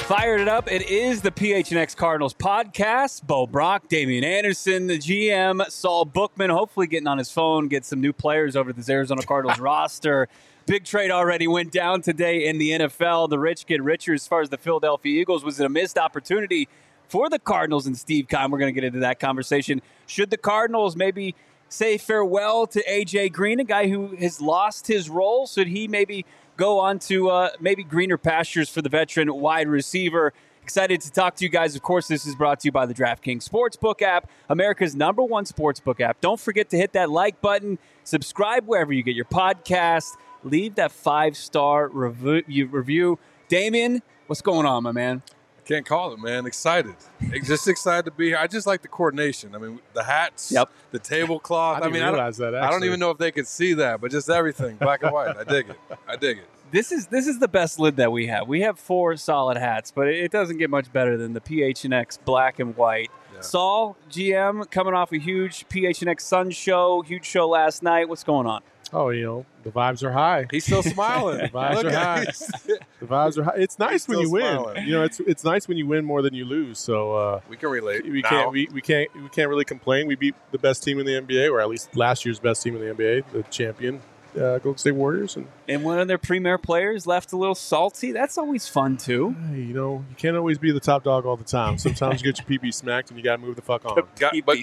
Fired it up. It is the PHNX Cardinals podcast. Bo Brock, Damian Anderson, the GM, Saul Bookman, hopefully getting on his phone, get some new players over this Arizona Cardinals roster. Big trade already went down today in the NFL. The rich get richer as far as the Philadelphia Eagles. Was it a missed opportunity for the Cardinals and Steve Keim? We're going to get into that conversation. Should the Cardinals maybe say farewell to A.J. Green, a guy who has lost his role? Should he maybe go on to maybe greener pastures for the veteran wide receiver? Excited to talk to you guys. Of course, this is brought to you by the DraftKings Sportsbook app, America's #1 sportsbook app. Don't forget to hit that like button, subscribe wherever you get your podcast, leave that 5-star review. Damian, what's going on, my man? Can't call it, man. Excited. Just excited to be here. I just like the coordination. I mean, the hats, the tablecloth. I didn't realize that, actually. I don't even know if they could see that, but just everything, black and white. I dig it. This is the best lid that we have. We have 4 solid hats, but it doesn't get much better than the PHNX black and white. Yeah. Saul, GM, coming off a huge PHNX Sun show, huge show last night. What's going on? Oh, the vibes are high. He's still smiling. The vibes are high. The vibes are high. It's nice when you win. It's nice when you win more than you lose. So we can relate. We can't really complain. We beat the best team in the NBA, or at least last year's best team in the NBA, the champion Golden State Warriors, and one of their premier players left a little salty. That's always fun too. Hey, you can't always be the top dog all the time. Sometimes you get your pee smacked, and you got to move the fuck on.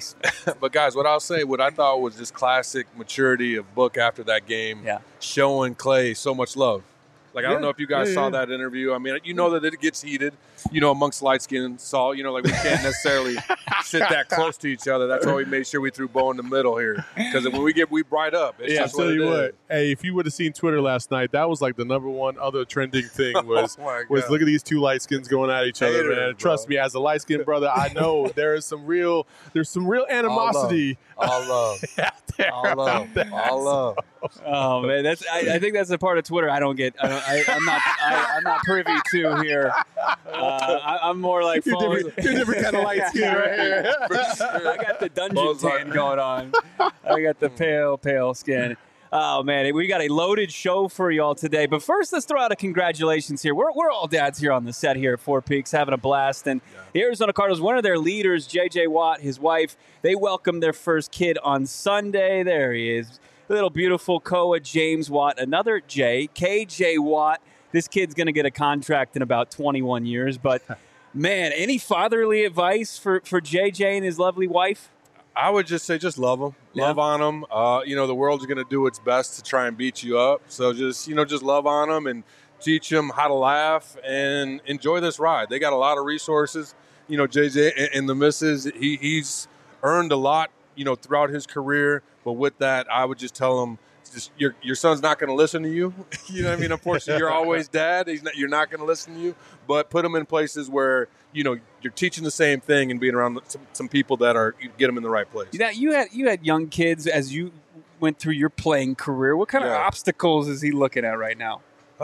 But guys, what I thought was just classic maturity of Book after that game, showing Clay so much love. Like, I don't know if you guys saw that interview. I mean, that it gets heated, amongst light skin and Saul. Like, we can't necessarily sit that close to each other. That's why we made sure we threw Bo in the middle here. Because when we bright up. It's just I'll tell you what. Hey, if you would have seen Twitter last night, that was like the #1 other trending thing was look at these 2 light skins going at each other, man. Trust me, as a light skinned brother, I know there's some real animosity. All love. All love. Oh man, I think that's a part of Twitter I don't get. I'm not privy to here. I'm more like you're different kind of light skin right here. I got the dungeon tan going on. I got the pale skin. Oh man, we got a loaded show for y'all today. But first, let's throw out a congratulations here. We're all dads here on the set here at Four Peaks, having a blast. And the Arizona Cardinals, one of their leaders, J.J. Watt, his wife, they welcomed their first kid on Sunday. There he is. Little beautiful Koa James Watt, another J, KJ Watt. This kid's going to get a contract in about 21 years. But, man, any fatherly advice for JJ and his lovely wife? I would just say just love them. Love on them. The world's going to do its best to try and beat you up. So just love on them and teach them how to laugh and enjoy this ride. They got a lot of resources. JJ and the missus, he's earned a lot, throughout his career. But with that, I would just tell him, your son's not going to listen to you. You know what I mean? Unfortunately, you're always dad. You're not going to listen to you. But put him in places where, you're teaching the same thing and being around some people that get them in the right place. You had young kids as you went through your playing career. What kind of obstacles is he looking at right now?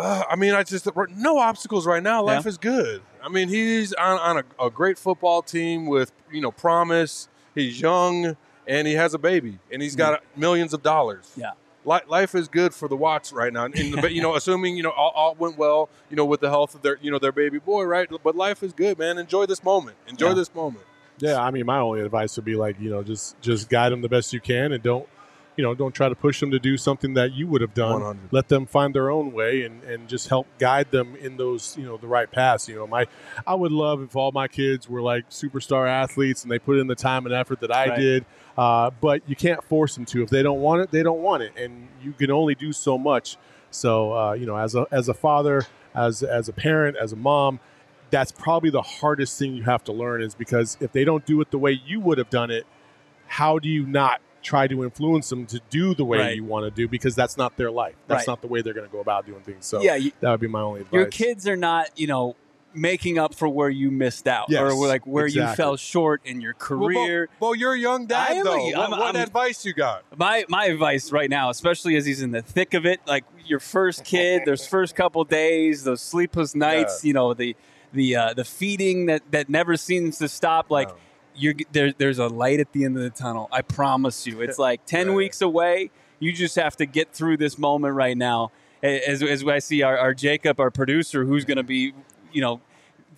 No obstacles right now. Life is good. I mean, he's on a great football team with, promise. He's young. And he has a baby, and he's got millions of dollars. Yeah, life is good for the Watts right now. Assuming all went well, with the health of their baby boy, right? But life is good, man. Enjoy this moment. This moment. Yeah, I mean, my only advice would be just guide them the best you can, and don't try to push them to do something that you would have done. 100. Let them find their own way and just help guide them in those, the right paths. I would love if all my kids were like superstar athletes and they put in the time and effort that I did. But you can't force them to. If they don't want it, they don't want it. And you can only do so much. So, as a father, as a parent, as a mom, that's probably the hardest thing you have to learn is because if they don't do it the way you would have done it, how do you not try to influence them to do the way you want to do, because that's not their life. That's not the way they're going to go about doing things. So that would be my only advice. Your kids are not, making up for where you missed out or like where you fell short in your career. Well, you're a young dad, though. What advice you got? My advice right now, especially as he's in the thick of it, like your first kid, those first couple days, those sleepless nights, the feeding that never seems to stop, there's a light at the end of the tunnel. I promise you. It's like 10 weeks away. You just have to get through this moment right now. As I see our Jacob, our producer, who's going to be,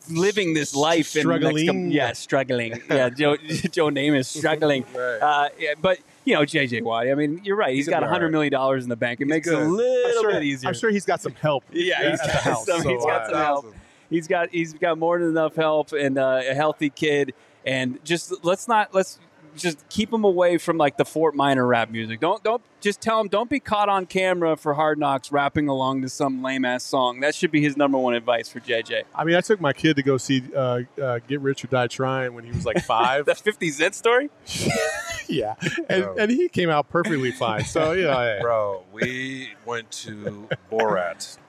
living this life. Struggling. Struggling. Yeah, Joe Namath is struggling. Right. But, J.J. Watt, I mean, you're right. He's got $100 million in the bank. It makes it a little bit easier. I'm sure he's got some help. Yeah, he's got some help. He's got more than enough help and a healthy kid. And let's just keep him away from like the Fort Minor rap music. Don't just tell him don't be caught on camera for Hard Knocks rapping along to some lame ass song. That should be his number one advice for JJ. I mean, I took my kid to go see Get Rich or Die Trying when he was like 5. That 50 Cent story? Yeah, and he came out perfectly fine. So yeah, bro, we went to Borat,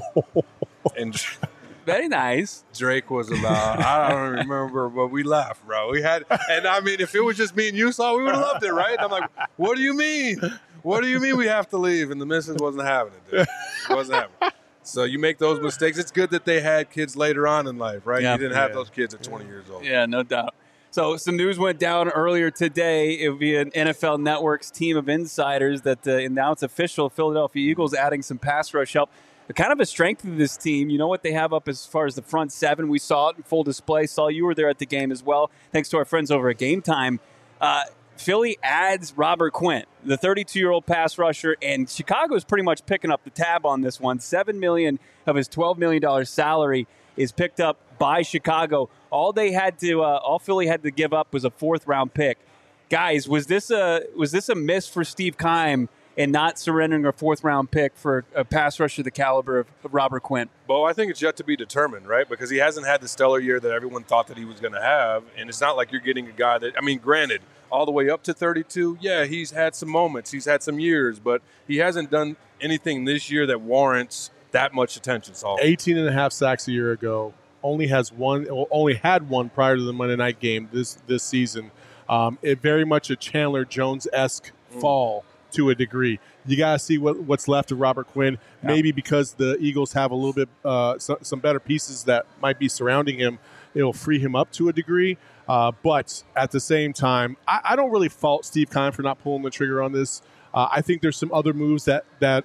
and very nice. Drake was about, I don't remember, but we laughed, bro. We had, and I mean, if it was just me and you saw, we would have loved it, right? And I'm like, what do you mean? What do you mean we have to leave? And the missus wasn't having it, dude. It wasn't having it. So you make those mistakes. It's good that they had kids later on in life, right? Yeah. You didn't have those kids at 20 years old. Yeah, no doubt. So some news went down earlier today. It would be an NFL Network's team of insiders that now it's official. Philadelphia Eagles adding some pass rush help. Kind of a strength of this team. You know what they have up as far as the front seven. We saw it in full display. Saul, you were there at the game as well. Thanks to our friends over at Game Time. Philly adds Robert Quinn, the 32-year-old pass rusher, and Chicago is pretty much picking up the tab on this one. $7 million of his $12 million salary is picked up by Chicago. All Philly had to give up was a 4th-round pick. Guys, was this a miss for Steve Keim and not surrendering a 4th-round pick for a pass rusher the caliber of Robert Quinn? Well, I think it's yet to be determined, right? Because he hasn't had the stellar year that everyone thought that he was going to have. And it's not like you're getting a guy that, I mean, granted, all the way up to 32, yeah, he's had some moments. He's had some years. But he hasn't done anything this year that warrants that much attention. So 18.5 sacks a year ago. Only had one prior to the Monday night game this season. It very much a Chandler Jones-esque fall to a degree. You got to see what's left of Robert Quinn. Yeah. Maybe because the Eagles have a little bit some better pieces that might be surrounding him, it'll free him up to a degree. But at the same time, I don't really fault Steve Keim for not pulling the trigger on this. I think there's some other moves that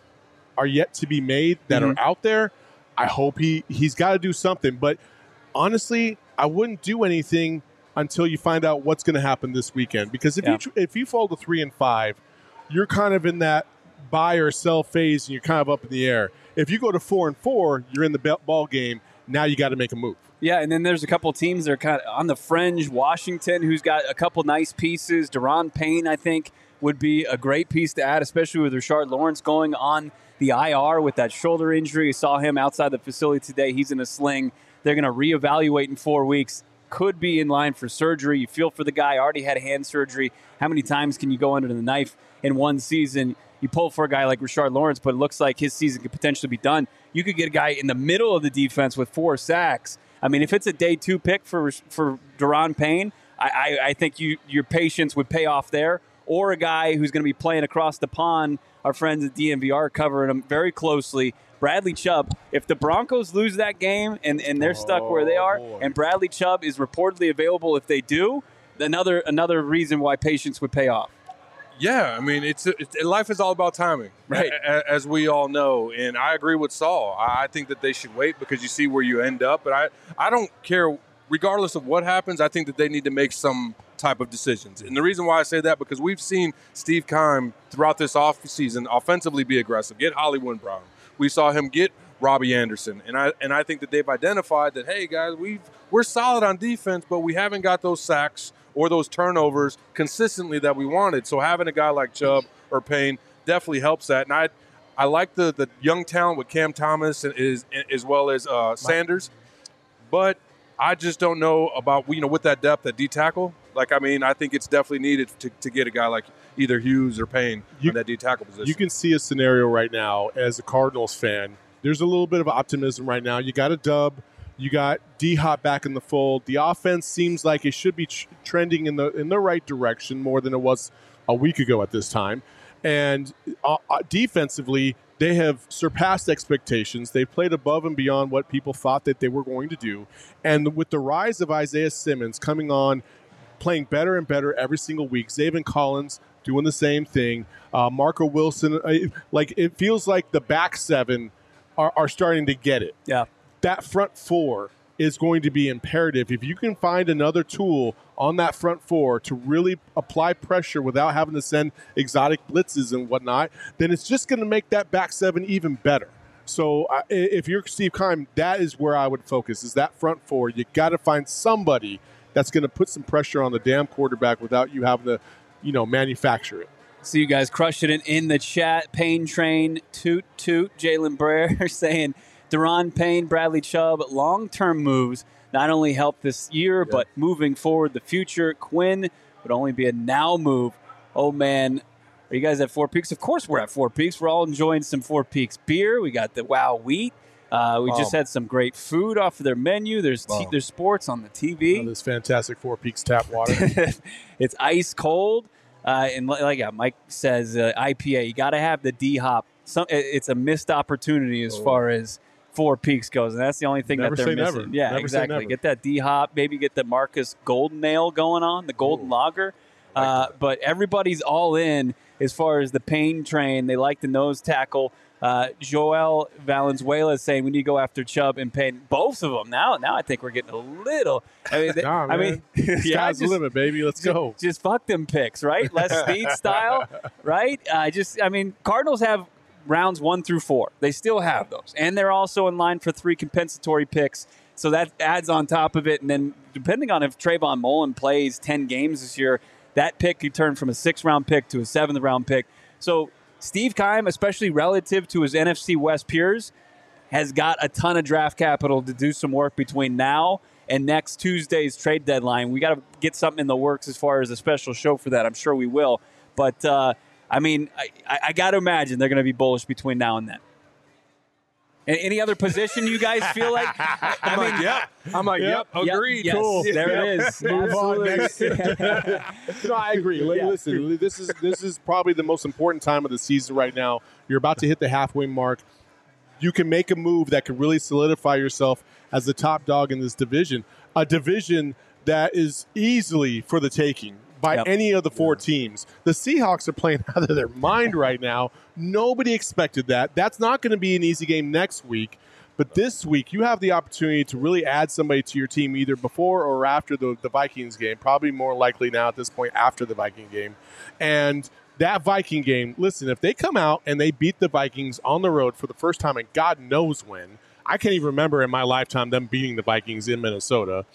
are yet to be made that are out there. I hope he's got to do something. But honestly, I wouldn't do anything until you find out what's going to happen this weekend. Because if you fall to 3-5, you're kind of in that buy or sell phase, and you're kind of up in the air. If you go to 4-4, you're in the ball game. Now you got to make a move. Yeah, and then there's a couple of teams that are kind of on the fringe. Washington, who's got a couple nice pieces. Daron Payne, I think, would be a great piece to add, especially with Rashard Lawrence going on the IR with that shoulder injury. You saw him outside the facility today. He's in a sling. They're going to reevaluate in 4 weeks. Could be in line for surgery. You feel for the guy. Already had hand surgery. How many times can you go under the knife in one season? You pull for a guy like Rashard Lawrence, but it looks like his season could potentially be done. You could get a guy in the middle of the defense with 4 sacks. I mean, if it's a day 2 pick for Daron Payne, I think your patience would pay off there. Or a guy who's going to be playing across the pond. Our friends at DNVR covering him very closely. Bradley Chubb. If the Broncos lose that game and they're stuck where they are, and Bradley Chubb is reportedly available if they do, another reason why patience would pay off. Yeah, I mean, life is all about timing, right? As we all know, and I agree with Saul. I think that they should wait because you see where you end up. But I don't care, regardless of what happens. I think that they need to make some type of decisions. And the reason why I say that, because we've seen Steve Keim throughout this offseason offensively be aggressive, get Hollywood Brown. We saw him get Robbie Anderson, and I think that they've identified that, hey guys, we're solid on defense, but we haven't got those sacks or those turnovers consistently that we wanted. So having a guy like Chubb or Payne definitely helps that. And I like the young talent with Cam Thomas as well as Sanders, but I just don't know about with that depth at D tackle. Like, I mean, I think it's definitely needed to get a guy like either Hughes or Payne in that D tackle position. You can see a scenario right now as a Cardinals fan. There's a little bit of optimism right now. You got a dub. You got D-Hop back in the fold. The offense seems like it should be trending in the right direction more than it was a week ago at this time. And defensively, they have surpassed expectations. They've played above and beyond what people thought that they were going to do. And with the rise of Isaiah Simmons coming on, playing better and better every single week, Zaven Collins doing the same thing, Marco Wilson, it feels like the back seven are starting to get it. Yeah. That front four is going to be imperative. If you can find another tool on that front four to really apply pressure without having to send exotic blitzes and whatnot, then it's just going to make that back seven even better. So if you're Steve Keim, that is where I would focus, is that front four. You got to find somebody that's going to put some pressure on the damn quarterback without you having to, manufacture it. So you guys crushing it in the chat. Payne Train, toot, toot. Jalen Brer saying, Daron Payne, Bradley Chubb, long-term moves not only help this year, but moving forward the future. Quinn would only be a now move. Oh, man. Are you guys at Four Peaks? Of course we're at Four Peaks. We're all enjoying some Four Peaks beer. We got the Wow Wheat. We just had some great food off of their menu. There's sports on the TV. This fantastic Four Peaks tap water. It's ice cold. And like Mike says, IPA, you got to have the D-hop. It's a missed opportunity as far as Four Peaks goes, and that's the only thing that they're missing. Never. Yeah, never exactly. Get that D-hop, maybe get the Marcus Golden Ale going on, the Golden Lager. But everybody's all in as far as the Payne Train. They like the nose tackle. Joel Valenzuela is saying we need to go after Chubb and Payne. Both of them. Now I think we're getting a little. Sky's the limit, baby. Let's go. Just fuck them picks, right? Les Snead style, right? Cardinals have rounds 1 through 4. They still have those. And they're also in line for 3 compensatory picks. So that adds on top of it. And then depending on if Trayvon Mullen plays 10 games this year, that pick could turn from a 6th-round pick to a 7th-round pick. So Steve Keim, especially relative to his NFC West peers, has got a ton of draft capital to do some work between now and next Tuesday's trade deadline. We got to get something in the works as far as a special show for that. I'm sure we will. But, I got to imagine they're going to be bullish between now and then. And any other position you guys feel like? Yep. Agreed. Yes, Cool. There it is. Move on next. No, I agree. Listen, this is probably the most important time of the season right now. You're about to hit the halfway mark. You can make a move that could really solidify yourself as the top dog in this division, a division that is easily for the taking by any of the 4 teams. The Seahawks are playing out of their mind right now. Nobody expected that. That's not going to be an easy game next week. But this week, you have the opportunity to really add somebody to your team either before or after the Vikings game. Probably more likely now at this point after the Viking game. And that Viking game, listen, if they come out and they beat the Vikings on the road for the first time and God knows when, I can't even remember in my lifetime them beating the Vikings in Minnesota.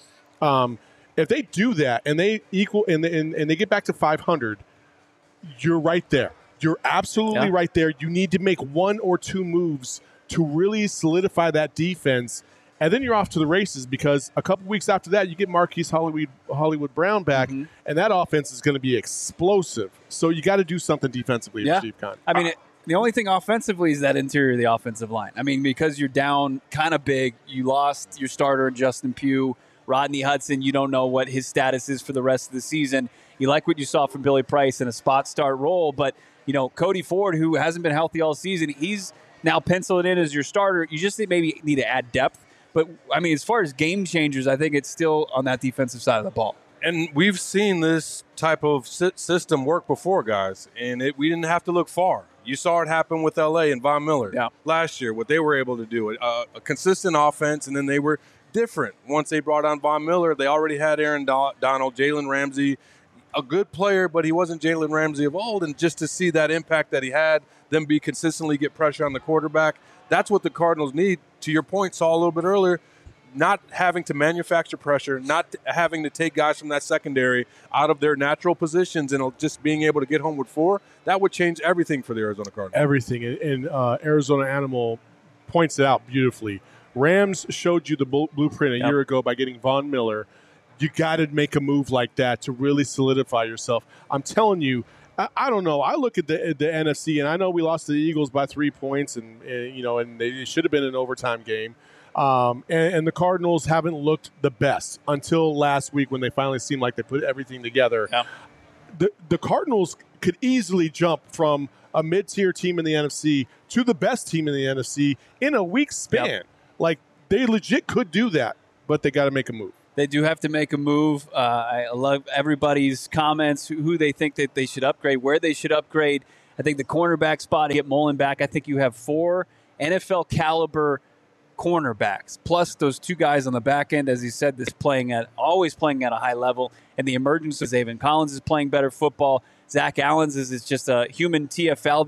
If they do that and they equal and they get back to 500, you're right there. You're absolutely right there. You need to make 1 or 2 moves to really solidify that defense, and then you're off to the races because a couple weeks after that, you get Marquise Hollywood Brown back, and that offense is going to be explosive. So you got to do something defensively for Steve Keim. The only thing offensively is that interior of the offensive line. Because you're down kind of big, you lost your starter in Justin Pugh. Rodney Hudson, you don't know what his status is for the rest of the season. You like what you saw from Billy Price in a spot start role, but Cody Ford, who hasn't been healthy all season, he's now penciled in as your starter. You just maybe need to add depth. But, as far as game changers, I think it's still on that defensive side of the ball. And we've seen this type of system work before, guys, and we didn't have to look far. You saw it happen with L.A. and Von Miller last year, what they were able to do. A consistent offense, and then they were different. Once they brought on Von Miller, they already had Aaron Donald, Jalen Ramsey, a good player, but he wasn't Jalen Ramsey of old. And just to see that impact that he had, them be consistently get pressure on the quarterback, that's what the Cardinals need. To your point, Saul, a little bit earlier, not having to manufacture pressure, not having to take guys from that secondary out of their natural positions and just being able to get home with 4, that would change everything for the Arizona Cardinals. Everything. And Arizona Animal points it out beautifully. Rams showed you the blueprint a year ago by getting Von Miller. You got to make a move like that to really solidify yourself. I'm telling you, I don't know. I look at the NFC, and I know we lost to the Eagles by 3 points, and they should have been an overtime game. And the Cardinals haven't looked the best until last week when they finally seemed like they put everything together. Yeah. The Cardinals could easily jump from a mid-tier team in the NFC to the best team in the NFC in a week's span. Yep. Like, they legit could do that, but they got to make a move. They do have to make a move. I love everybody's comments, who they think that they should upgrade, where they should upgrade. I think the cornerback spot, get Mullen back. I think you have 4 NFL-caliber cornerbacks, plus those two guys on the back end, as he said, always playing at a high level, and the emergence of Zaven Collins is playing better football. Zach Allens is just a human TFL.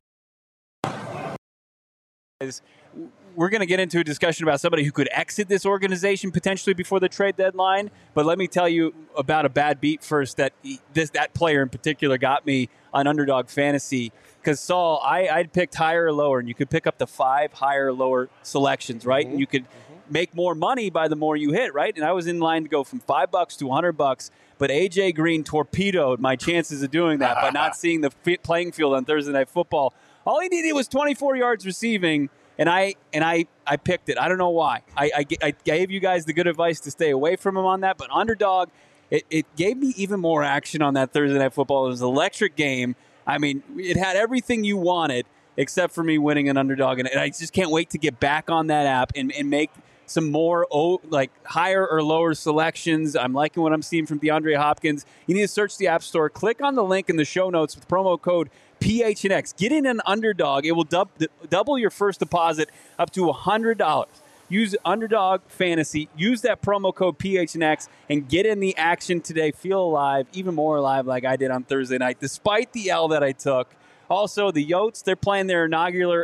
We're going to get into a discussion about somebody who could exit this organization potentially before the trade deadline. But let me tell you about a bad beat first that player in particular got me on Underdog Fantasy. Because, Saul, I'd picked higher or lower, and you could pick up to 5 higher or lower selections, right? And you could make more money by the more you hit, right? And I was in line to go from $5 to $100, but A.J. Green torpedoed my chances of doing that by not seeing the playing field on Thursday Night Football. All he needed was 24 yards receiving, and I picked it. I don't know why. I gave you guys the good advice to stay away from him on that, but Underdog, it gave me even more action on that Thursday Night Football. It was an electric game. I mean, it had everything you wanted except for me winning an Underdog, and I just can't wait to get back on that app and make some more higher or lower selections. I'm liking what I'm seeing from DeAndre Hopkins. You need to search the App Store. Click on the link in the show notes with promo code PHNX. Get in an Underdog. It will double your first deposit up to $100. Use Underdog Fantasy. Use that promo code PHNX and get in the action today. Feel alive, even more alive like I did on Thursday night, despite the L that I took. Also, the Yotes, they're playing their inaugural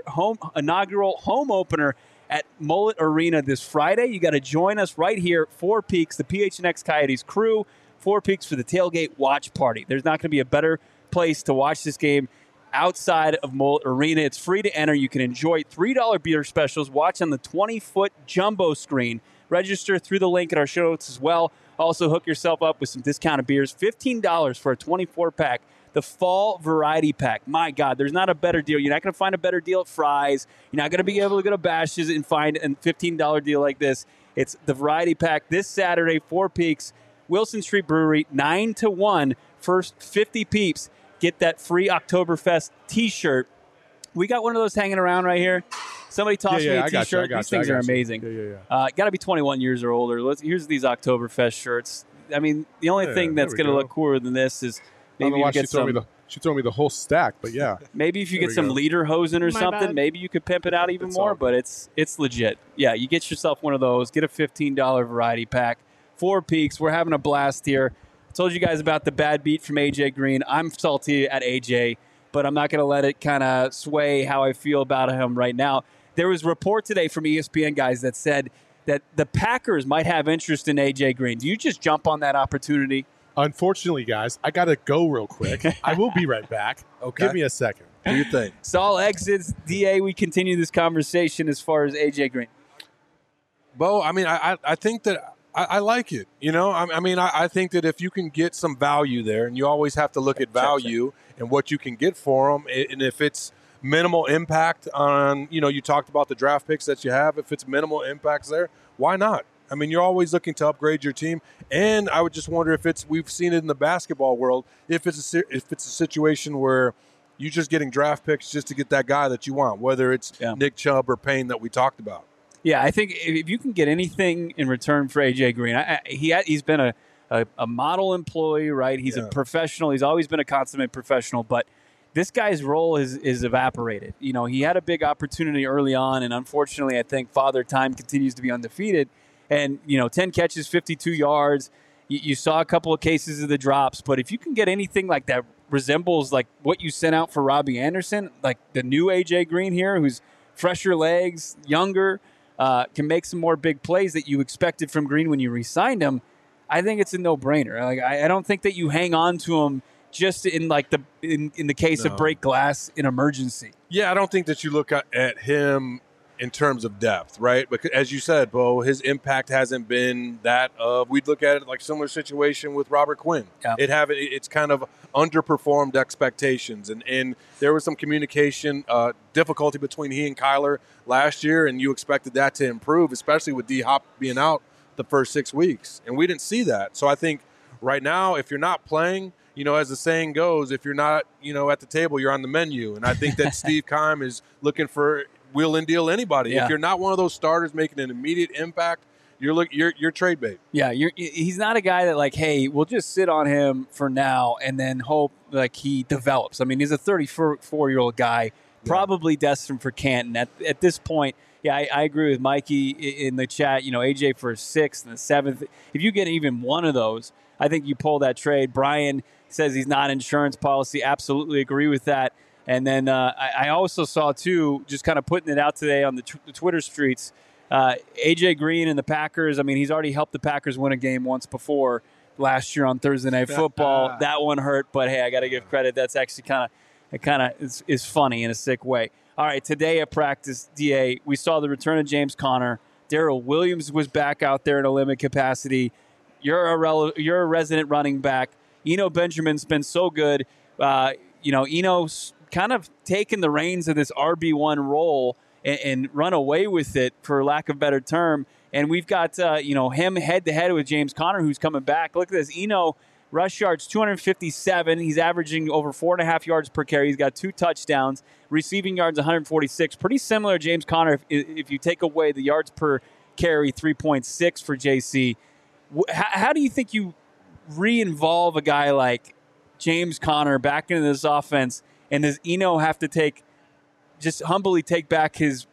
home opener at Mullet Arena this Friday. You got to join us right here, Four Peaks, the PHNX Coyotes crew, Four Peaks for the tailgate watch party. There's not going to be a better place to watch this game outside of Mullet Arena. It's free to enter. You can enjoy $3 beer specials. Watch on the 20-foot jumbo screen. Register through the link in our show notes as well. Also, hook yourself up with some discounted beers. $15 for a 24-pack. The Fall Variety Pack. My God, there's not a better deal. You're not going to find a better deal at Fry's. You're not going to be able to go to Bash's and find a $15 deal like this. It's the Variety Pack this Saturday, Four Peaks, Wilson Street Brewery, 9 to 1. First 50 peeps get that free Oktoberfest T-shirt. We got one of those hanging around right here. Somebody tossed me a T-shirt. These things are amazing. Got to be 21 years or older. Here's these Oktoberfest shirts. I mean, the only thing that's going to look cooler than this is maybe you get some. She throw me the whole stack, but yeah. Maybe if you get some lederhosen or something, maybe you could pimp it out even more. But it's legit. Yeah, you get yourself one of those. Get a $15 variety pack. Four Peaks. We're having a blast here. I told you guys about the bad beat from A.J. Green. I'm salty at A.J., but I'm not going to let it kind of sway how I feel about him right now. There was a report today from ESPN guys that said that the Packers might have interest in A.J. Green. Do you just jump on that opportunity? Unfortunately, guys, I got to go real quick. I will be right back. Okay. Give me a second. Do you think? Saul exits. DA, we continue this conversation as far as A.J. Green. Bo, I mean, I think that I like it. You know, I think that if you can get some value there, and you always have to look at value and what you can get for them, and if it's minimal impact on, you talked about the draft picks that you have, if it's minimal impacts there, why not? I mean, you're always looking to upgrade your team, and I would just wonder if we've seen it in the basketball world, if it's a situation where you're just getting draft picks just to get that guy that you want, whether it's Nick Chubb or Payne that we talked about. Yeah, I think if you can get anything in return for A.J. Green, he's been a model employee, right? He's a professional. He's always been a consummate professional, but this guy's role is evaporated. He had a big opportunity early on, and unfortunately, I think Father Time continues to be undefeated. And, 10 catches, 52 yards. You saw a couple of cases of the drops. But if you can get anything like that resembles like what you sent out for Robbie Anderson, like the new A.J. Green here, who's fresher legs, younger, can make some more big plays that you expected from Green when you re-signed him, I think it's a no-brainer. Like I don't think that you hang on to him just in like in the case of break glass in emergency. Yeah, I don't think that you look at him in terms of depth, right? Because as you said, Bo, his impact hasn't been that of, we'd look at it like similar situation with Robert Quinn. Yeah. It's kind of underperformed expectations. And there was some communication difficulty between he and Kyler last year, and you expected that to improve, especially with D-Hop being out the first 6 weeks. And we didn't see that. So I think right now, if you're not playing, as the saying goes, if you're not, at the table, you're on the menu. And I think that Steve Keim is looking for wheel and deal anybody. Yeah. If you're not one of those starters making an immediate impact, you're trade bait. Yeah, he's not a guy that like, hey, we'll just sit on him for now and then hope like he develops. I mean, he's a 34-year-old guy, probably destined for Canton. At this point, Yeah, I agree with Mikey in the chat. AJ for 6th and the 7th. If you get even one of those, I think you pull that trade. Brian says he's not insurance policy. Absolutely agree with that. And then I also saw, too, just kind of putting it out today on the Twitter streets, AJ Green and the Packers. I mean, he's already helped the Packers win a game once before last year on Thursday Night Football. That one hurt, but hey, I got to give credit. That's actually kind of is funny in a sick way. All right, today at practice, DA, we saw the return of James Conner. Darrell Williams was back out there in a limited capacity. You're a resident running back. Eno Benjamin's been so good. Eno's kind of taken the reins of this RB1 role and run away with it, for lack of a better term. And we've got him head-to-head with James Conner, who's coming back. Look at this. Eno, rush yards, 257. He's averaging over 4.5 yards per carry. He's got 2 touchdowns. Receiving yards, 146. Pretty similar to James Conner if you take away the yards per carry, 3.6 for JC. How do you think you re-involve a guy like James Conner back into this offense, and does Eno have to just humbly take back the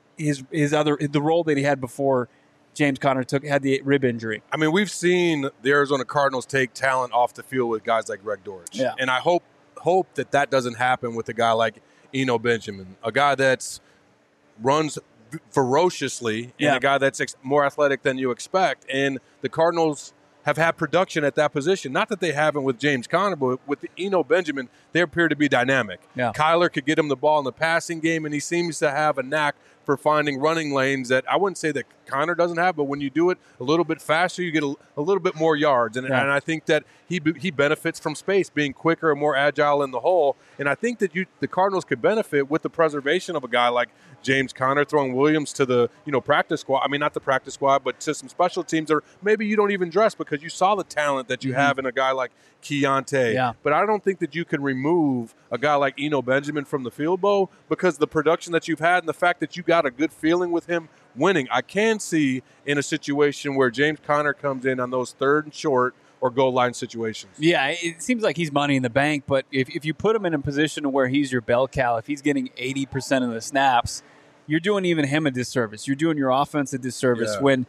role that he had before James Conner had the rib injury? I mean, we've seen the Arizona Cardinals take talent off the field with guys like Greg Dortch. Yeah. And I hope that doesn't happen with a guy like Eno Benjamin, a guy that runs ferociously and a guy that's more athletic than you expect. And the Cardinals have had production at that position. Not that they haven't with James Conner, but with Eno Benjamin, they appear to be dynamic. Yeah. Kyler could get him the ball in the passing game, and he seems to have a knack for finding running lanes that I wouldn't say that Conner doesn't have, but when you do it a little bit faster, you get a little bit more yards. And I think that he benefits from space, being quicker and more agile in the hole. And I think that the Cardinals could benefit with the preservation of a guy like James Conner, throwing Williams to the practice squad. I mean, not the practice squad, but to some special teams, or maybe you don't even dress because you saw the talent that you have in a guy like Keontae. Yeah. But I don't think that you can remove a guy like Eno Benjamin from the field, Bo, because the production that you've had and the fact that you got a good feeling with him winning. I can see in a situation where James Conner comes in on those 3rd and short or goal line situations. Yeah, it seems like he's money in the bank, but if you put him in a position where he's your bell cow, if he's getting 80% of the snaps, you're doing even him a disservice. You're doing your offense a disservice when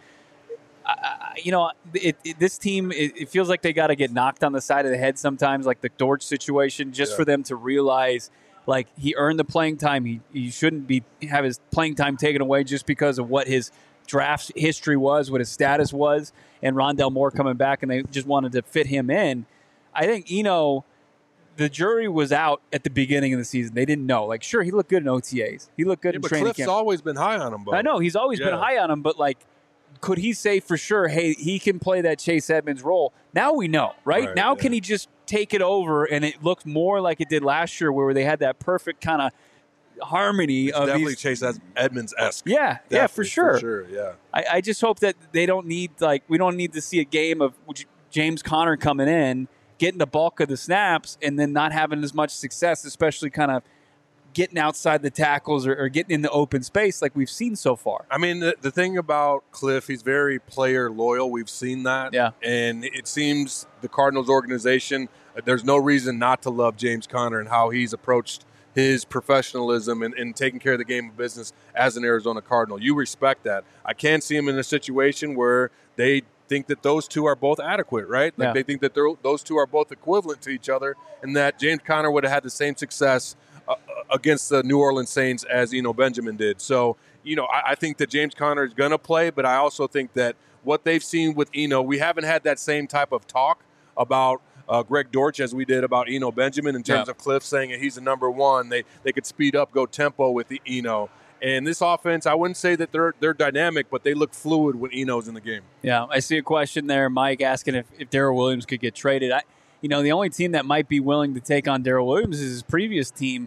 this team, it feels like they got to get knocked on the side of the head sometimes, like the Dortch situation, just for them to realize, like, he earned the playing time. He shouldn't have his playing time taken away just because of what his draft history was, what his status was, and Rondale Moore coming back, and they just wanted to fit him in. I think Eno, the jury was out at the beginning of the season. They didn't know. Like, sure, he looked good in OTAs. He looked good in training camp. Cliff's always been high on him, Bo. I know. He's always been high on him, but, like, could he say for sure, hey, he can play that Chase Edmonds role? Now we know, right? Now can he just take it over, and it looks more like it did last year where they had that perfect kind of harmony of definitely Chase Edmonds-esque. Yeah, for sure. Yeah. I just hope that they don't need, we don't need to see a game of James Conner coming in, getting the bulk of the snaps, and then not having as much success, especially kind of getting outside the tackles or getting in the open space like we've seen so far. I mean, the thing about Cliff, he's very player loyal. We've seen that. Yeah. And it seems the Cardinals organization, there's no reason not to love James Conner and how he's approached his professionalism and taking care of the game of business as an Arizona Cardinal. You respect that. I can't see him in a situation where they think that those two are both adequate, right? Like they think that those two are both equivalent to each other, and that James Conner would have had the same success against the New Orleans Saints as Eno Benjamin did. So, I think that James Conner is going to play, but I also think that what they've seen with Eno, we haven't had that same type of talk about Greg Dortch as we did about Eno Benjamin in terms of Cliff saying that he's the number one. They could speed up, go tempo with the Eno. And this offense, I wouldn't say that they're dynamic, but they look fluid when Eno's in the game. Yeah, I see a question there, Mike, asking if Darrell Williams could get traded. The only team that might be willing to take on Darrell Williams is his previous team,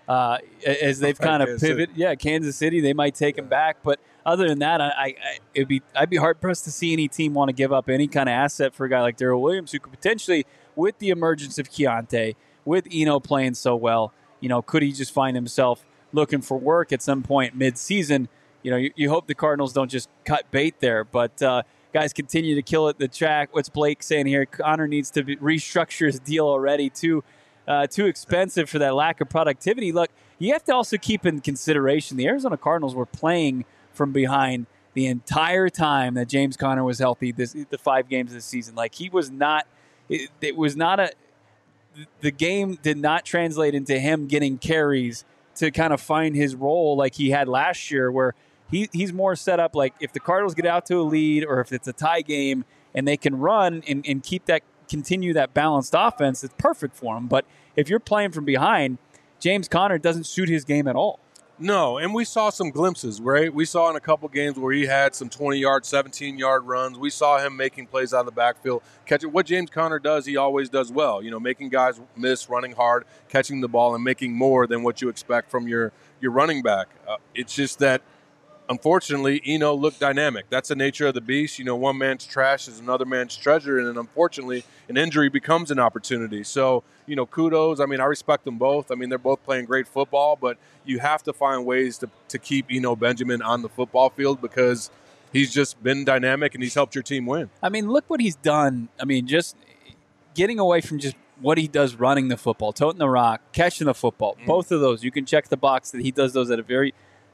as they've kind of pivoted. Yeah, Kansas City, they might take him back. But other than that, I'd be hard-pressed to see any team want to give up any kind of asset for a guy like Darrell Williams, who could potentially, with the emergence of Keontae, with Eno playing so well, could he just find himself looking for work at some point mid-season? You hope the Cardinals don't just cut bait there. But guys continue to kill it. The track. What's Blake saying here? Conner needs to restructure his deal already. Too expensive for that lack of productivity. Look, you have to also keep in consideration the Arizona Cardinals were playing from behind the entire time that James Conner was healthy, the 5 games this season. Like, he was not – it was not a – the game did not translate into him getting carries to kind of find his role like he had last year, where he's more set up like if the Cardinals get out to a lead or if it's a tie game and they can run and continue that balanced offense, it's perfect for him. But if you're playing from behind, James Conner doesn't suit his game at all. No, and we saw some glimpses, right? We saw in a couple games where he had some 20-yard, 17-yard runs. We saw him making plays out of the backfield, catching what James Conner does. He always does well, making guys miss, running hard, catching the ball, and making more than what you expect from your running back. It's just that, unfortunately, Eno looked dynamic. That's the nature of the beast. One man's trash is another man's treasure, and then unfortunately, an injury becomes an opportunity. So, kudos. I respect them both. They're both playing great football, but you have to find ways to keep Eno Benjamin on the football field because he's just been dynamic and he's helped your team win. Look what he's done. Just getting away from just what he does running the football, toting the rock, catching the football. Both of those, you can check the box that he does those at a very,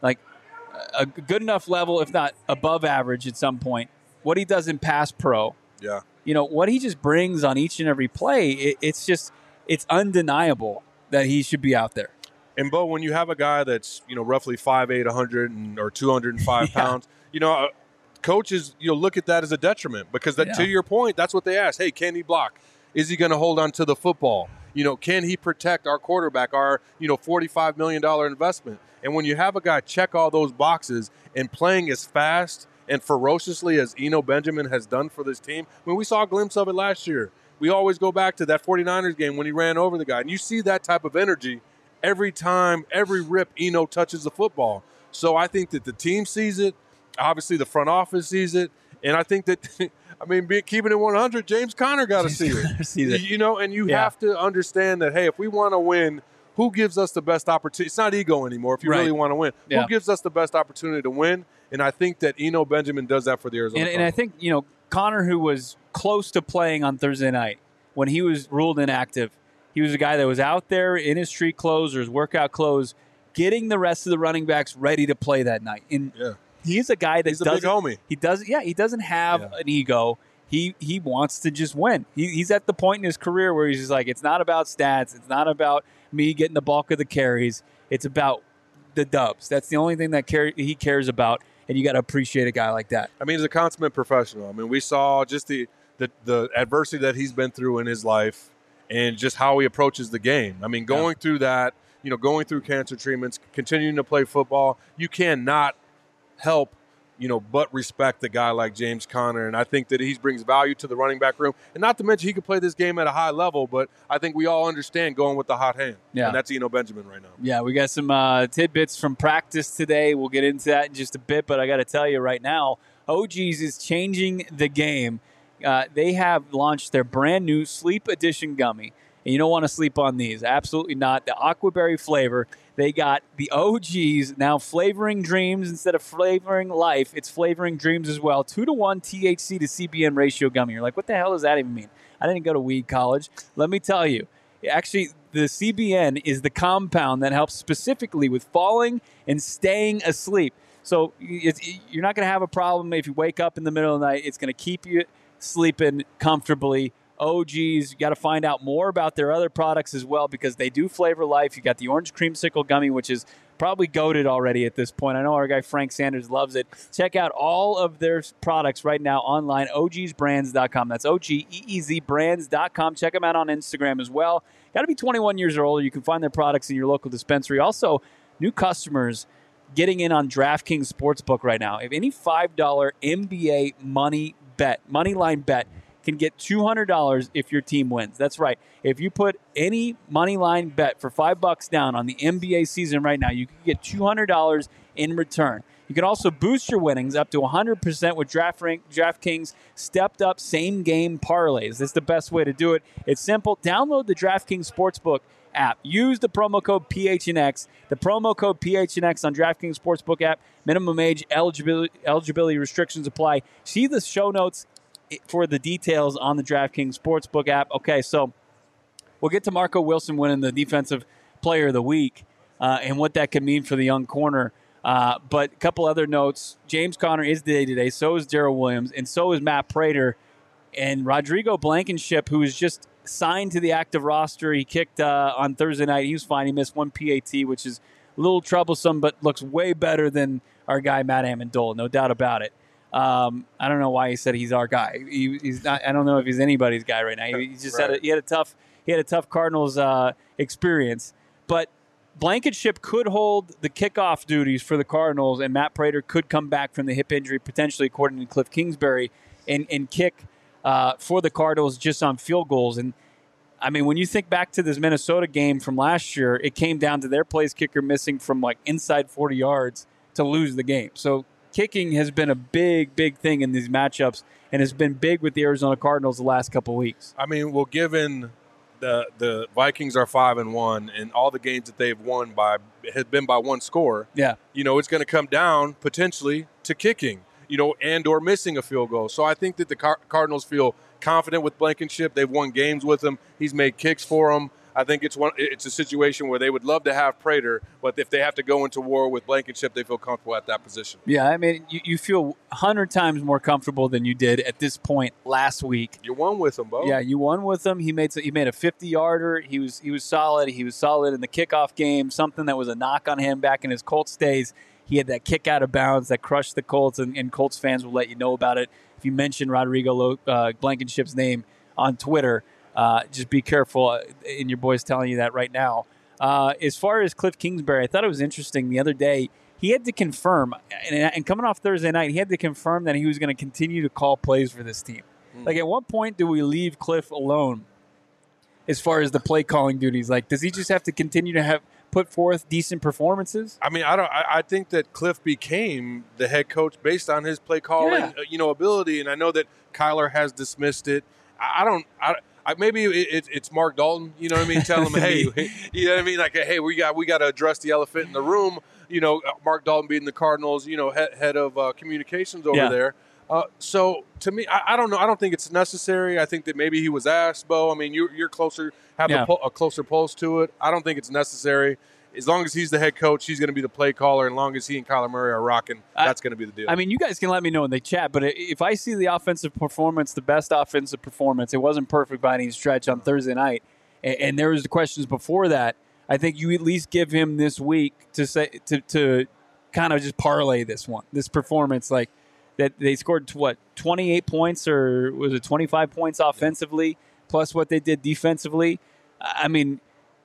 a good enough level, if not above average at some point. What he does in pass pro. Yeah. What he just brings on each and every play, it's undeniable that he should be out there. And, Bo, when you have a guy that's, roughly 5'8", 100 or 205 pounds, coaches, look at that as a detriment because to your point, that's what they ask. Hey, can he block? Is he going to hold on to the football? Can he protect our quarterback, our, $45 million investment? And when you have a guy check all those boxes and playing as fast and ferociously as Eno Benjamin has done for this team, we saw a glimpse of it last year. We always go back to that 49ers game when he ran over the guy. And you see that type of energy every time, every rip Eno touches the football. So I think that the team sees it. Obviously, the front office sees it. And I think that, keeping it 100, James Conner got to see it. And you have to understand that, hey, if we want to win, who gives us the best opportunity? It's not ego anymore if you really want to win. Yeah. Who gives us the best opportunity to win? And I think that Eno Benjamin does that for the Arizona Cardinals. And I think, Conner, who was close to playing on Thursday night, when he was ruled inactive, he was a guy that was out there in his street clothes or his workout clothes, getting the rest of the running backs ready to play that night. And he's a guy that he's a big homie. He doesn't have an ego. He wants to just win. He's at the point in his career where he's just like, it's not about stats. It's not about me getting the bulk of the carries. It's about the dubs. That's the only thing that he cares about, and you got to appreciate a guy like that. He's a consummate professional. We saw just the adversity that he's been through in his life and just how he approaches the game. Going through that, going through cancer treatments, continuing to play football, you cannot help but respect a guy like James Conner. And I think that he brings value to the running back room. And not to mention he could play this game at a high level, but I think we all understand going with the hot hand. Yeah. And that's Eno Benjamin right now. Yeah, we got some tidbits from practice today. We'll get into that in just a bit, but I got to tell you right now, OG's is changing the game. They have launched their brand new Sleep Edition gummy. And you don't want to sleep on these. Absolutely not. The aquaberry flavor. They got the OGs now flavoring dreams instead of flavoring life. It's flavoring dreams as well. 2-to-1 THC to CBN ratio gummy. You're like, what the hell does that even mean? I didn't go to weed college. Let me tell you. Actually, the CBN is the compound that helps specifically with falling and staying asleep. So you're not going to have a problem if you wake up in the middle of the night. It's going to keep you sleeping comfortably. OGs, you got to find out more about their other products as well because they do flavor life. You got the orange creamsicle gummy, which is probably goated already at this point. I know our guy Frank Sanders loves it. Check out all of their products right now online, ogsbrands.com. That's OGEEZbrands.com. Check them out on Instagram as well. Got to be 21 years or older. You can find their products in your local dispensary. Also, new customers getting in on DraftKings Sportsbook right now. If any $5 NBA money line bet, can get $200 if your team wins. That's right. If you put any money line bet for $5 down on the NBA season right now, you can get $200 in return. You can also boost your winnings up to 100% with DraftKings stepped up same game parlays. That's the best way to do it. It's simple. Download the DraftKings Sportsbook app. Use the promo code PHNX. The promo code PHNX on DraftKings Sportsbook app. Minimum age, eligibility restrictions apply. See the show notes for the details on the DraftKings Sportsbook app. Okay, so we'll get to Marco Wilson winning the Defensive Player of the Week and what that could mean for the young corner. But a couple other notes. James Conner is day-to-day. So is Darrell Williams. And so is Matt Prater. And Rodrigo Blankenship, who is just signed to the active roster. He kicked on Thursday night. He was fine. He missed one PAT, which is a little troublesome, but looks way better than our guy, Matt Amendola. No doubt about it. I don't know why he said he's our guy. He's not. I don't know if he's anybody's guy right now. He just right. he had a tough Cardinals experience. But Blankenship could hold the kickoff duties for the Cardinals, and Matt Prater could come back from the hip injury, potentially, according to Cliff Kingsbury, and kick for the Cardinals just on field goals. And, I mean, when you think back to this Minnesota game from last year, it came down to their place kicker missing from, like, inside 40 yards to lose the game. So kicking has been a big, big thing in these matchups, and has been big with the Arizona Cardinals the last couple of weeks. I mean, well, given the Vikings are 5-1, and all the games that they've won has been by one score. Yeah, it's going to come down potentially to kicking, and or missing a field goal. So I think that the Cardinals feel confident with Blankenship. They've won games with him. He's made kicks for them. I think it's a situation where they would love to have Prater, but if they have to go into war with Blankenship, they feel comfortable at that position. Yeah, I mean, you feel 100 times more comfortable than you did at this point last week. You won with him, Bo. Yeah, you won with him. He made a 50-yarder. He was solid. He was solid in the kickoff game, something that was a knock on him back in his Colts days. He had that kick out of bounds that crushed the Colts, and Colts fans will let you know about it. If you mention Rodrigo Blankenship's name on Twitter, just be careful, and your boy's telling you that right now. As far as Cliff Kingsbury, I thought it was interesting the other day. He had to confirm, and coming off Thursday night, he had to confirm that he was going to continue to call plays for this team. Like, at what point do we leave Cliff alone as far as the play calling duties? Like, does he just have to continue to put forth decent performances? I mean, I think that Cliff became the head coach based on his play calling, ability, and I know that Kyler has dismissed it. Maybe it's Mark Dalton, you know what I mean? Tell him, hey, you know what I mean? Like, hey, we got to address the elephant in the room. Mark Dalton being the Cardinals, head of communications over there. So to me, I don't know. I don't think it's necessary. I think that maybe he was asked, Bo. I mean, you're closer, have a closer pulse to it. I don't think it's necessary. As long as he's the head coach, he's going to be the play caller. As long as he and Kyler Murray are rocking, that's going to be the deal. I mean, you guys can let me know in the chat, but if I see the offensive performance, the best offensive performance, it wasn't perfect by any stretch on Thursday night, and there was the questions before that, I think you at least give him this week to kind of just parlay this performance, like that they scored 28 points, or was it 25 points offensively, plus what they did defensively. I mean,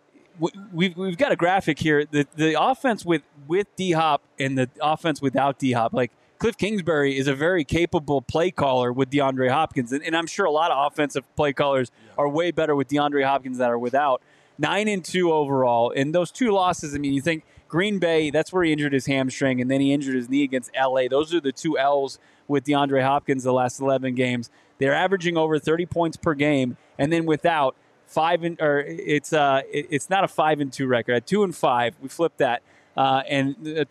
we've got a graphic here. The offense with D-Hop and the offense without D-Hop, like Cliff Kingsbury is a very capable play caller with DeAndre Hopkins, and I'm sure a lot of offensive play callers are way better with DeAndre Hopkins than are without. 9-2 overall, and those two losses. I mean, you think Green Bay, that's where he injured his hamstring, and then he injured his knee against LA. Those are the two L's with DeAndre Hopkins the last 11 games. They're averaging over 30 points per game, and then without. It's not a 5-2 record. At 2-5, we flipped that, and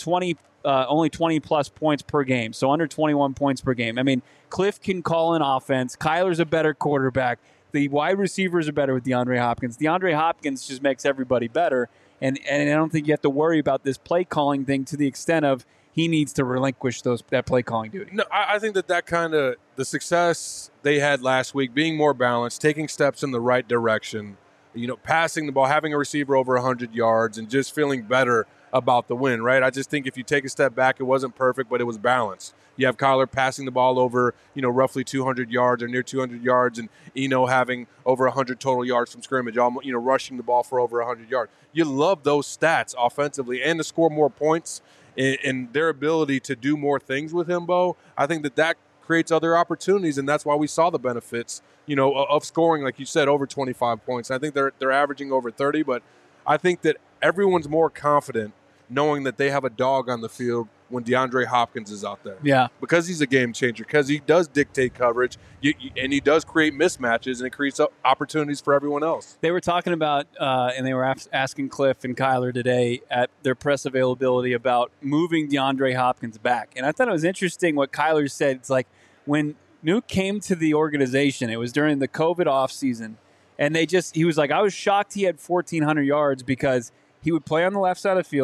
only 20 plus points per game, so under 21 points per game. I mean, Cliff can call an offense. Kyler's a better quarterback. The wide receivers are better with DeAndre Hopkins. DeAndre Hopkins just makes everybody better, and I don't think you have to worry about this play calling thing to the extent of he needs to relinquish that play calling duty. No, I think that kind of the success they had last week, being more balanced, taking steps in the right direction, passing the ball, having a receiver over 100 yards, and just feeling better about the win, right? I just think if you take a step back, it wasn't perfect, but it was balanced. You have Kyler passing the ball over, roughly 200 yards or near 200 yards, and Eno having over 100 total yards from scrimmage, rushing the ball for over 100 yards. You love those stats offensively, and to score more points and their ability to do more things with him, Bo. I think that creates other opportunities, and that's why we saw the benefits, of scoring, like you said, over 25 points. I think they're averaging over 30, but I think that everyone's more confident knowing that they have a dog on the field when DeAndre Hopkins is out there. Yeah. Because he's a game changer, because he does dictate coverage, and he does create mismatches, and it creates opportunities for everyone else. They were talking about, and they were asking Cliff and Kyler today at their press availability about moving DeAndre Hopkins back. And I thought it was interesting what Kyler said. It's like when Nuke came to the organization, it was during the COVID offseason, and he was like, I was shocked he had 1,400 yards because he would play on the left side of the field.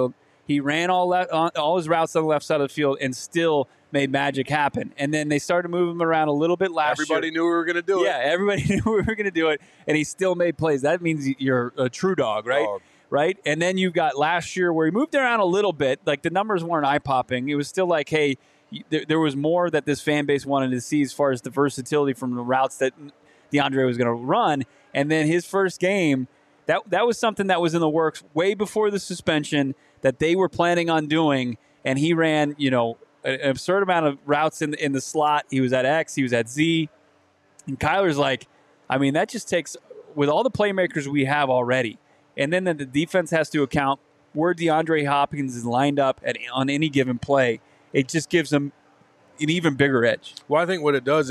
He ran all his routes on the left side of the field and still made magic happen. And then they started moving him around a little bit last year. Everybody knew we were going to do it. Yeah, everybody knew we were going to do it, and he still made plays. That means you're a true dog, right? Right? And then you've got last year where he moved around a little bit. Like, the numbers weren't eye-popping. It was still like, hey, there was more that this fan base wanted to see as far as the versatility from the routes that DeAndre was going to run. And then his first game, that was something that was in the works way before the suspension that they were planning on doing, and he ran, an absurd amount of routes in the slot. He was at X, he was at Z, and Kyler's like, I mean, that just takes, with all the playmakers we have already, and then the defense has to account where DeAndre Hopkins is lined up on any given play. It just gives them an even bigger edge. Well, I think what it does,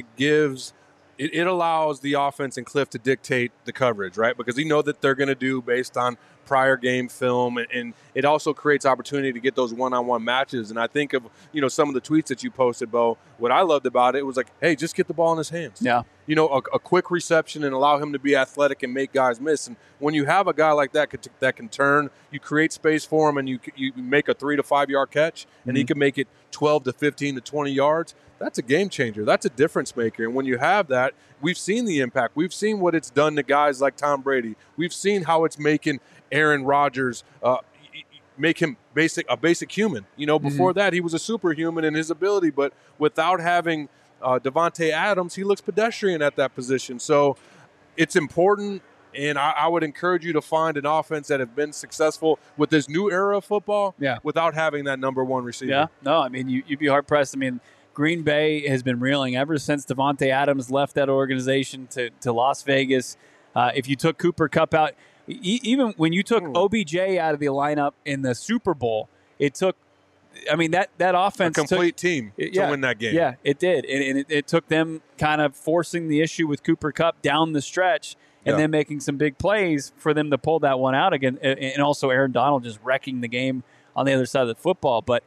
it allows the offense and Cliff to dictate the coverage, right? Because you know that they're going to do based on prior game film, and it also creates opportunity to get those one-on-one matches. And I think of, some of the tweets that you posted, Bo. What I loved about it was like, hey, just get the ball in his hands. Yeah. A quick reception and allow him to be athletic and make guys miss. And when you have a guy like that that can turn, you create space for him, and you make a 3 to 5 yard catch, and he can make it 12 to 15 to 20 yards. That's a game changer. That's a difference maker. And when you have that, we've seen the impact. We've seen what it's done to guys like Tom Brady. We've seen how it's making Aaron Rodgers make him a basic human. Before that, he was a superhuman in his ability, but without having Devontae Adams, he looks pedestrian at that position. So it's important, and I would encourage you to find an offense that have been successful with this new era of football without having that number one receiver. Yeah, no, I mean, you'd be hard-pressed. I mean, Green Bay has been reeling ever since Devontae Adams left that organization to Las Vegas. If you took Cooper Kupp out, even when you took OBJ out of the lineup in the Super Bowl, it took, that offense. A complete team to win that game. Yeah, it did. And it took them kind of forcing the issue with Cooper Kupp down the stretch and then making some big plays for them to pull that one out again. And also Aaron Donald just wrecking the game on the other side of the football. But,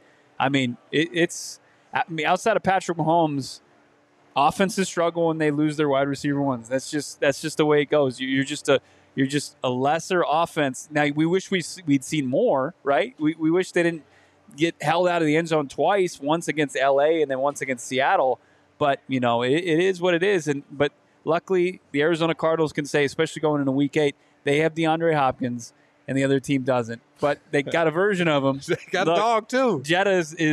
it's – outside of Patrick Mahomes, offenses struggle when they lose their wide receiver ones. That's just the way it goes. You're just a lesser offense. Now we wish we'd seen more, right? We wish they didn't get held out of the end zone twice, once against LA and then once against Seattle. But it is what it is. But luckily, the Arizona Cardinals can say, especially going into Week 8, they have DeAndre Hopkins. And the other team doesn't. But they got a version of him. They got a dog, too. Jetta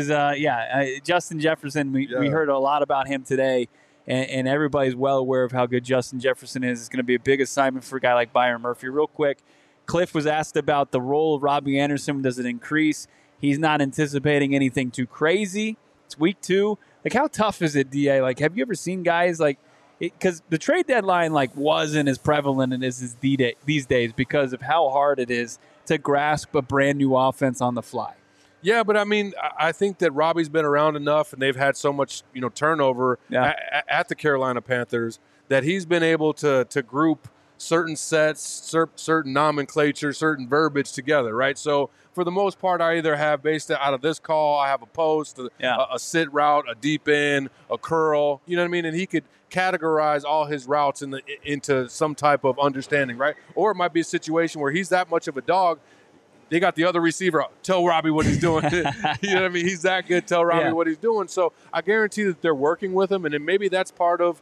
is Justin Jefferson. We heard a lot about him today, and everybody's well aware of how good Justin Jefferson is. It's going to be a big assignment for a guy like Byron Murphy. Real quick, Cliff was asked about the role of Robbie Anderson. Does it increase? He's not anticipating anything too crazy. It's week 2. Like, how tough is it, DA? Like, have you ever seen guys like – because the trade deadline wasn't as prevalent as these days because of how hard it is to grasp a brand new offense on the fly. Yeah, but I think that Robbie's been around enough, and they've had so much turnover at the Carolina Panthers that he's been able to group certain sets, certain nomenclature, certain verbiage together, right? So for the most part, I either have based out of this call, I have a post, a sit route, a deep end, a curl, you know what I mean? And he could categorize all his routes into some type of understanding, right? Or it might be a situation where he's that much of a dog, they got the other receiver, tell Robbie what he's doing. You know what I mean? He's that good, tell Robbie what he's doing. So I guarantee that they're working with him, and then maybe that's part of,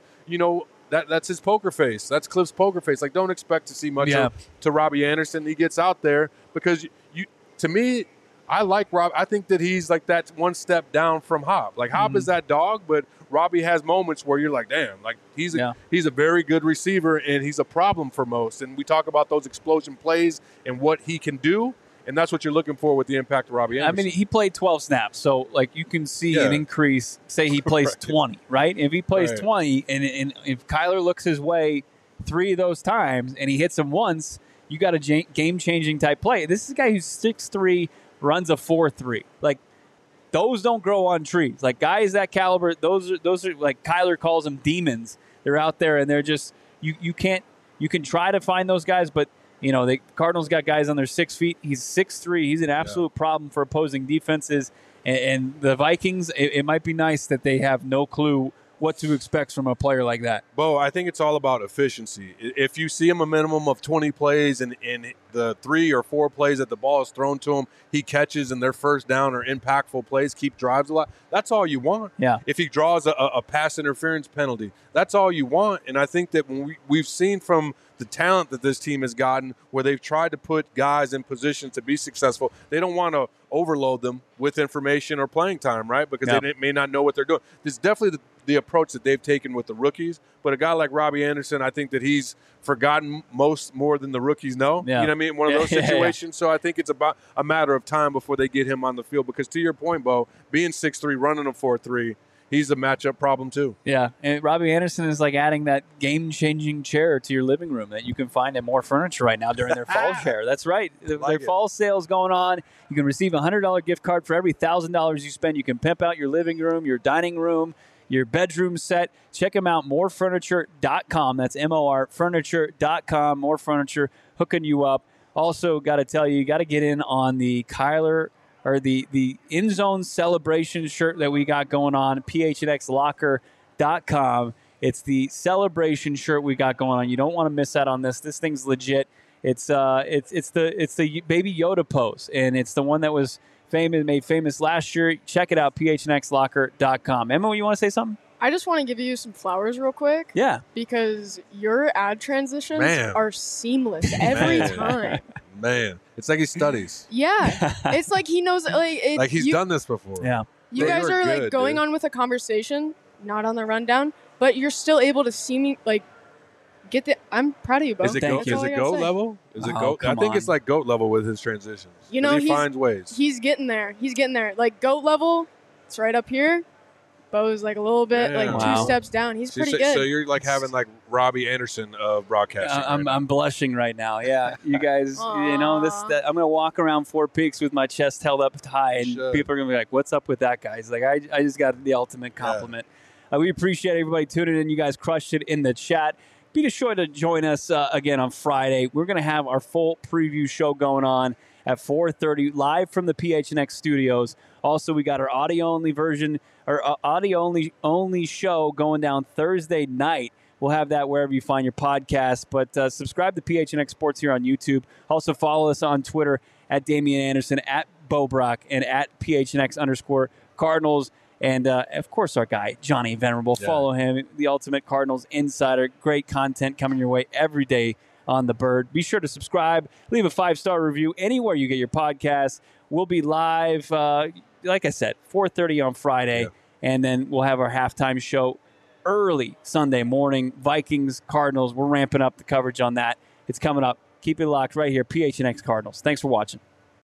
that's his poker face. That's Cliff's poker face. Like, don't expect to see much to Robbie Anderson. He gets out there because to me, I like Rob. I think that he's like that one step down from Hop. Like, Hop is that dog, but Robbie has moments where you're like, damn, like he's a very good receiver, and he's a problem for most. And we talk about those explosion plays and what he can do, and that's what you're looking for with the impact of Robbie Anderson. He played 12 snaps, so you can see an increase. Say he plays 20, right? If he plays 20, and if Kyler looks his way 3 of those times and he hits them once, you got a game-changing type play. This is a guy who's 6'3", runs a 4.3. Like, those don't grow on trees. Like, guys that caliber, those are like Kyler calls them demons. They're out there and they're just you can try to find those guys, but the Cardinals got guys on their 6 feet. He's 6'3". He's an absolute problem for opposing defenses. And the Vikings, it might be nice that they have no clue what to expect from a player like that? Bo, I think it's all about efficiency. If you see him a minimum of 20 plays and in the 3 or 4 plays that the ball is thrown to him, he catches and their first down or impactful plays, keep drives a lot, that's all you want. Yeah. If he draws a pass interference penalty, that's all you want. And I think that when we've seen from the talent that this team has gotten where they've tried to put guys in position to be successful, they don't want to overload them with information or playing time, right? Because they may not know what they're doing. This is definitely the approach that they've taken with the rookies. But a guy like Robbie Anderson, I think that he's forgotten more than the rookies know. Yeah. You know what I mean? One of those situations. So I think it's about a matter of time before they get him on the field. Because to your point, Bo, being 6'3", running a 4.3, he's a matchup problem too. Yeah, and Robbie Anderson is like adding that game-changing chair to your living room that you can find at More Furniture right now during their fall fair. That's right. Their fall sale's going on. You can receive a $100 gift card for every $1,000 you spend. You can pimp out your living room, your dining room, your bedroom set. Check them out, morefurniture.com. That's morefurniture.com. More Furniture hooking you up. Also, got to tell you, you got to get in on the Kyler or the In Zone celebration shirt that we got going on, phnxlocker.com. It's the celebration shirt we got going on. You don't want to miss out on this. This thing's legit. It's the Baby Yoda pose, and it's the one that was made famous last year. Check it out, phnxlocker.com. Emma, you want to say something? I just want to give you some flowers real quick. Yeah. Because your ad transitions are seamless every time. Man, it's like he studies. Yeah. It's like he knows. Like he's done this before. Yeah. You guys are like going on with a conversation, not on the rundown, but you're still able to see me get the. I'm proud of you, Bo. Is it GOAT level? Is it GOAT? I think it's like GOAT level with his transitions. You know, he finds ways. He's getting there. Like GOAT level, it's right up here. Bo's like a little bit, 2 steps down. He's pretty good. So you're like having like Robbie Anderson of broadcasting. I'm blushing right now. Yeah, you guys, you know this. I'm gonna walk around Fort Peaks with my chest held up high, and people are gonna be like, "What's up with that guy?" He's like, I just got the ultimate compliment. Yeah. We appreciate everybody tuning in. You guys crushed it in the chat. Be sure to join us again on Friday. We're gonna have our full preview show going on at 4:30 live from the PHNX studios. Also, we got our audio-only version, or audio-only show going down Thursday night. We'll have that wherever you find your podcast. But subscribe to PHNX Sports here on YouTube. Also, follow us on Twitter at Damian Anderson, at Bo Brock, and at PHNX_Cardinals. And, of course, our guy, Johnny Venerable. Yeah. Follow him, the Ultimate Cardinals Insider. Great content coming your way every day on the Bird. Be sure to subscribe. Leave a 5-star review anywhere you get your podcasts. We'll be live, like I said, 4:30 on Friday. Yeah. And then we'll have our halftime show early Sunday morning. Vikings, Cardinals. We're ramping up the coverage on that. It's coming up. Keep it locked right here. PHNX Cardinals. Thanks for watching.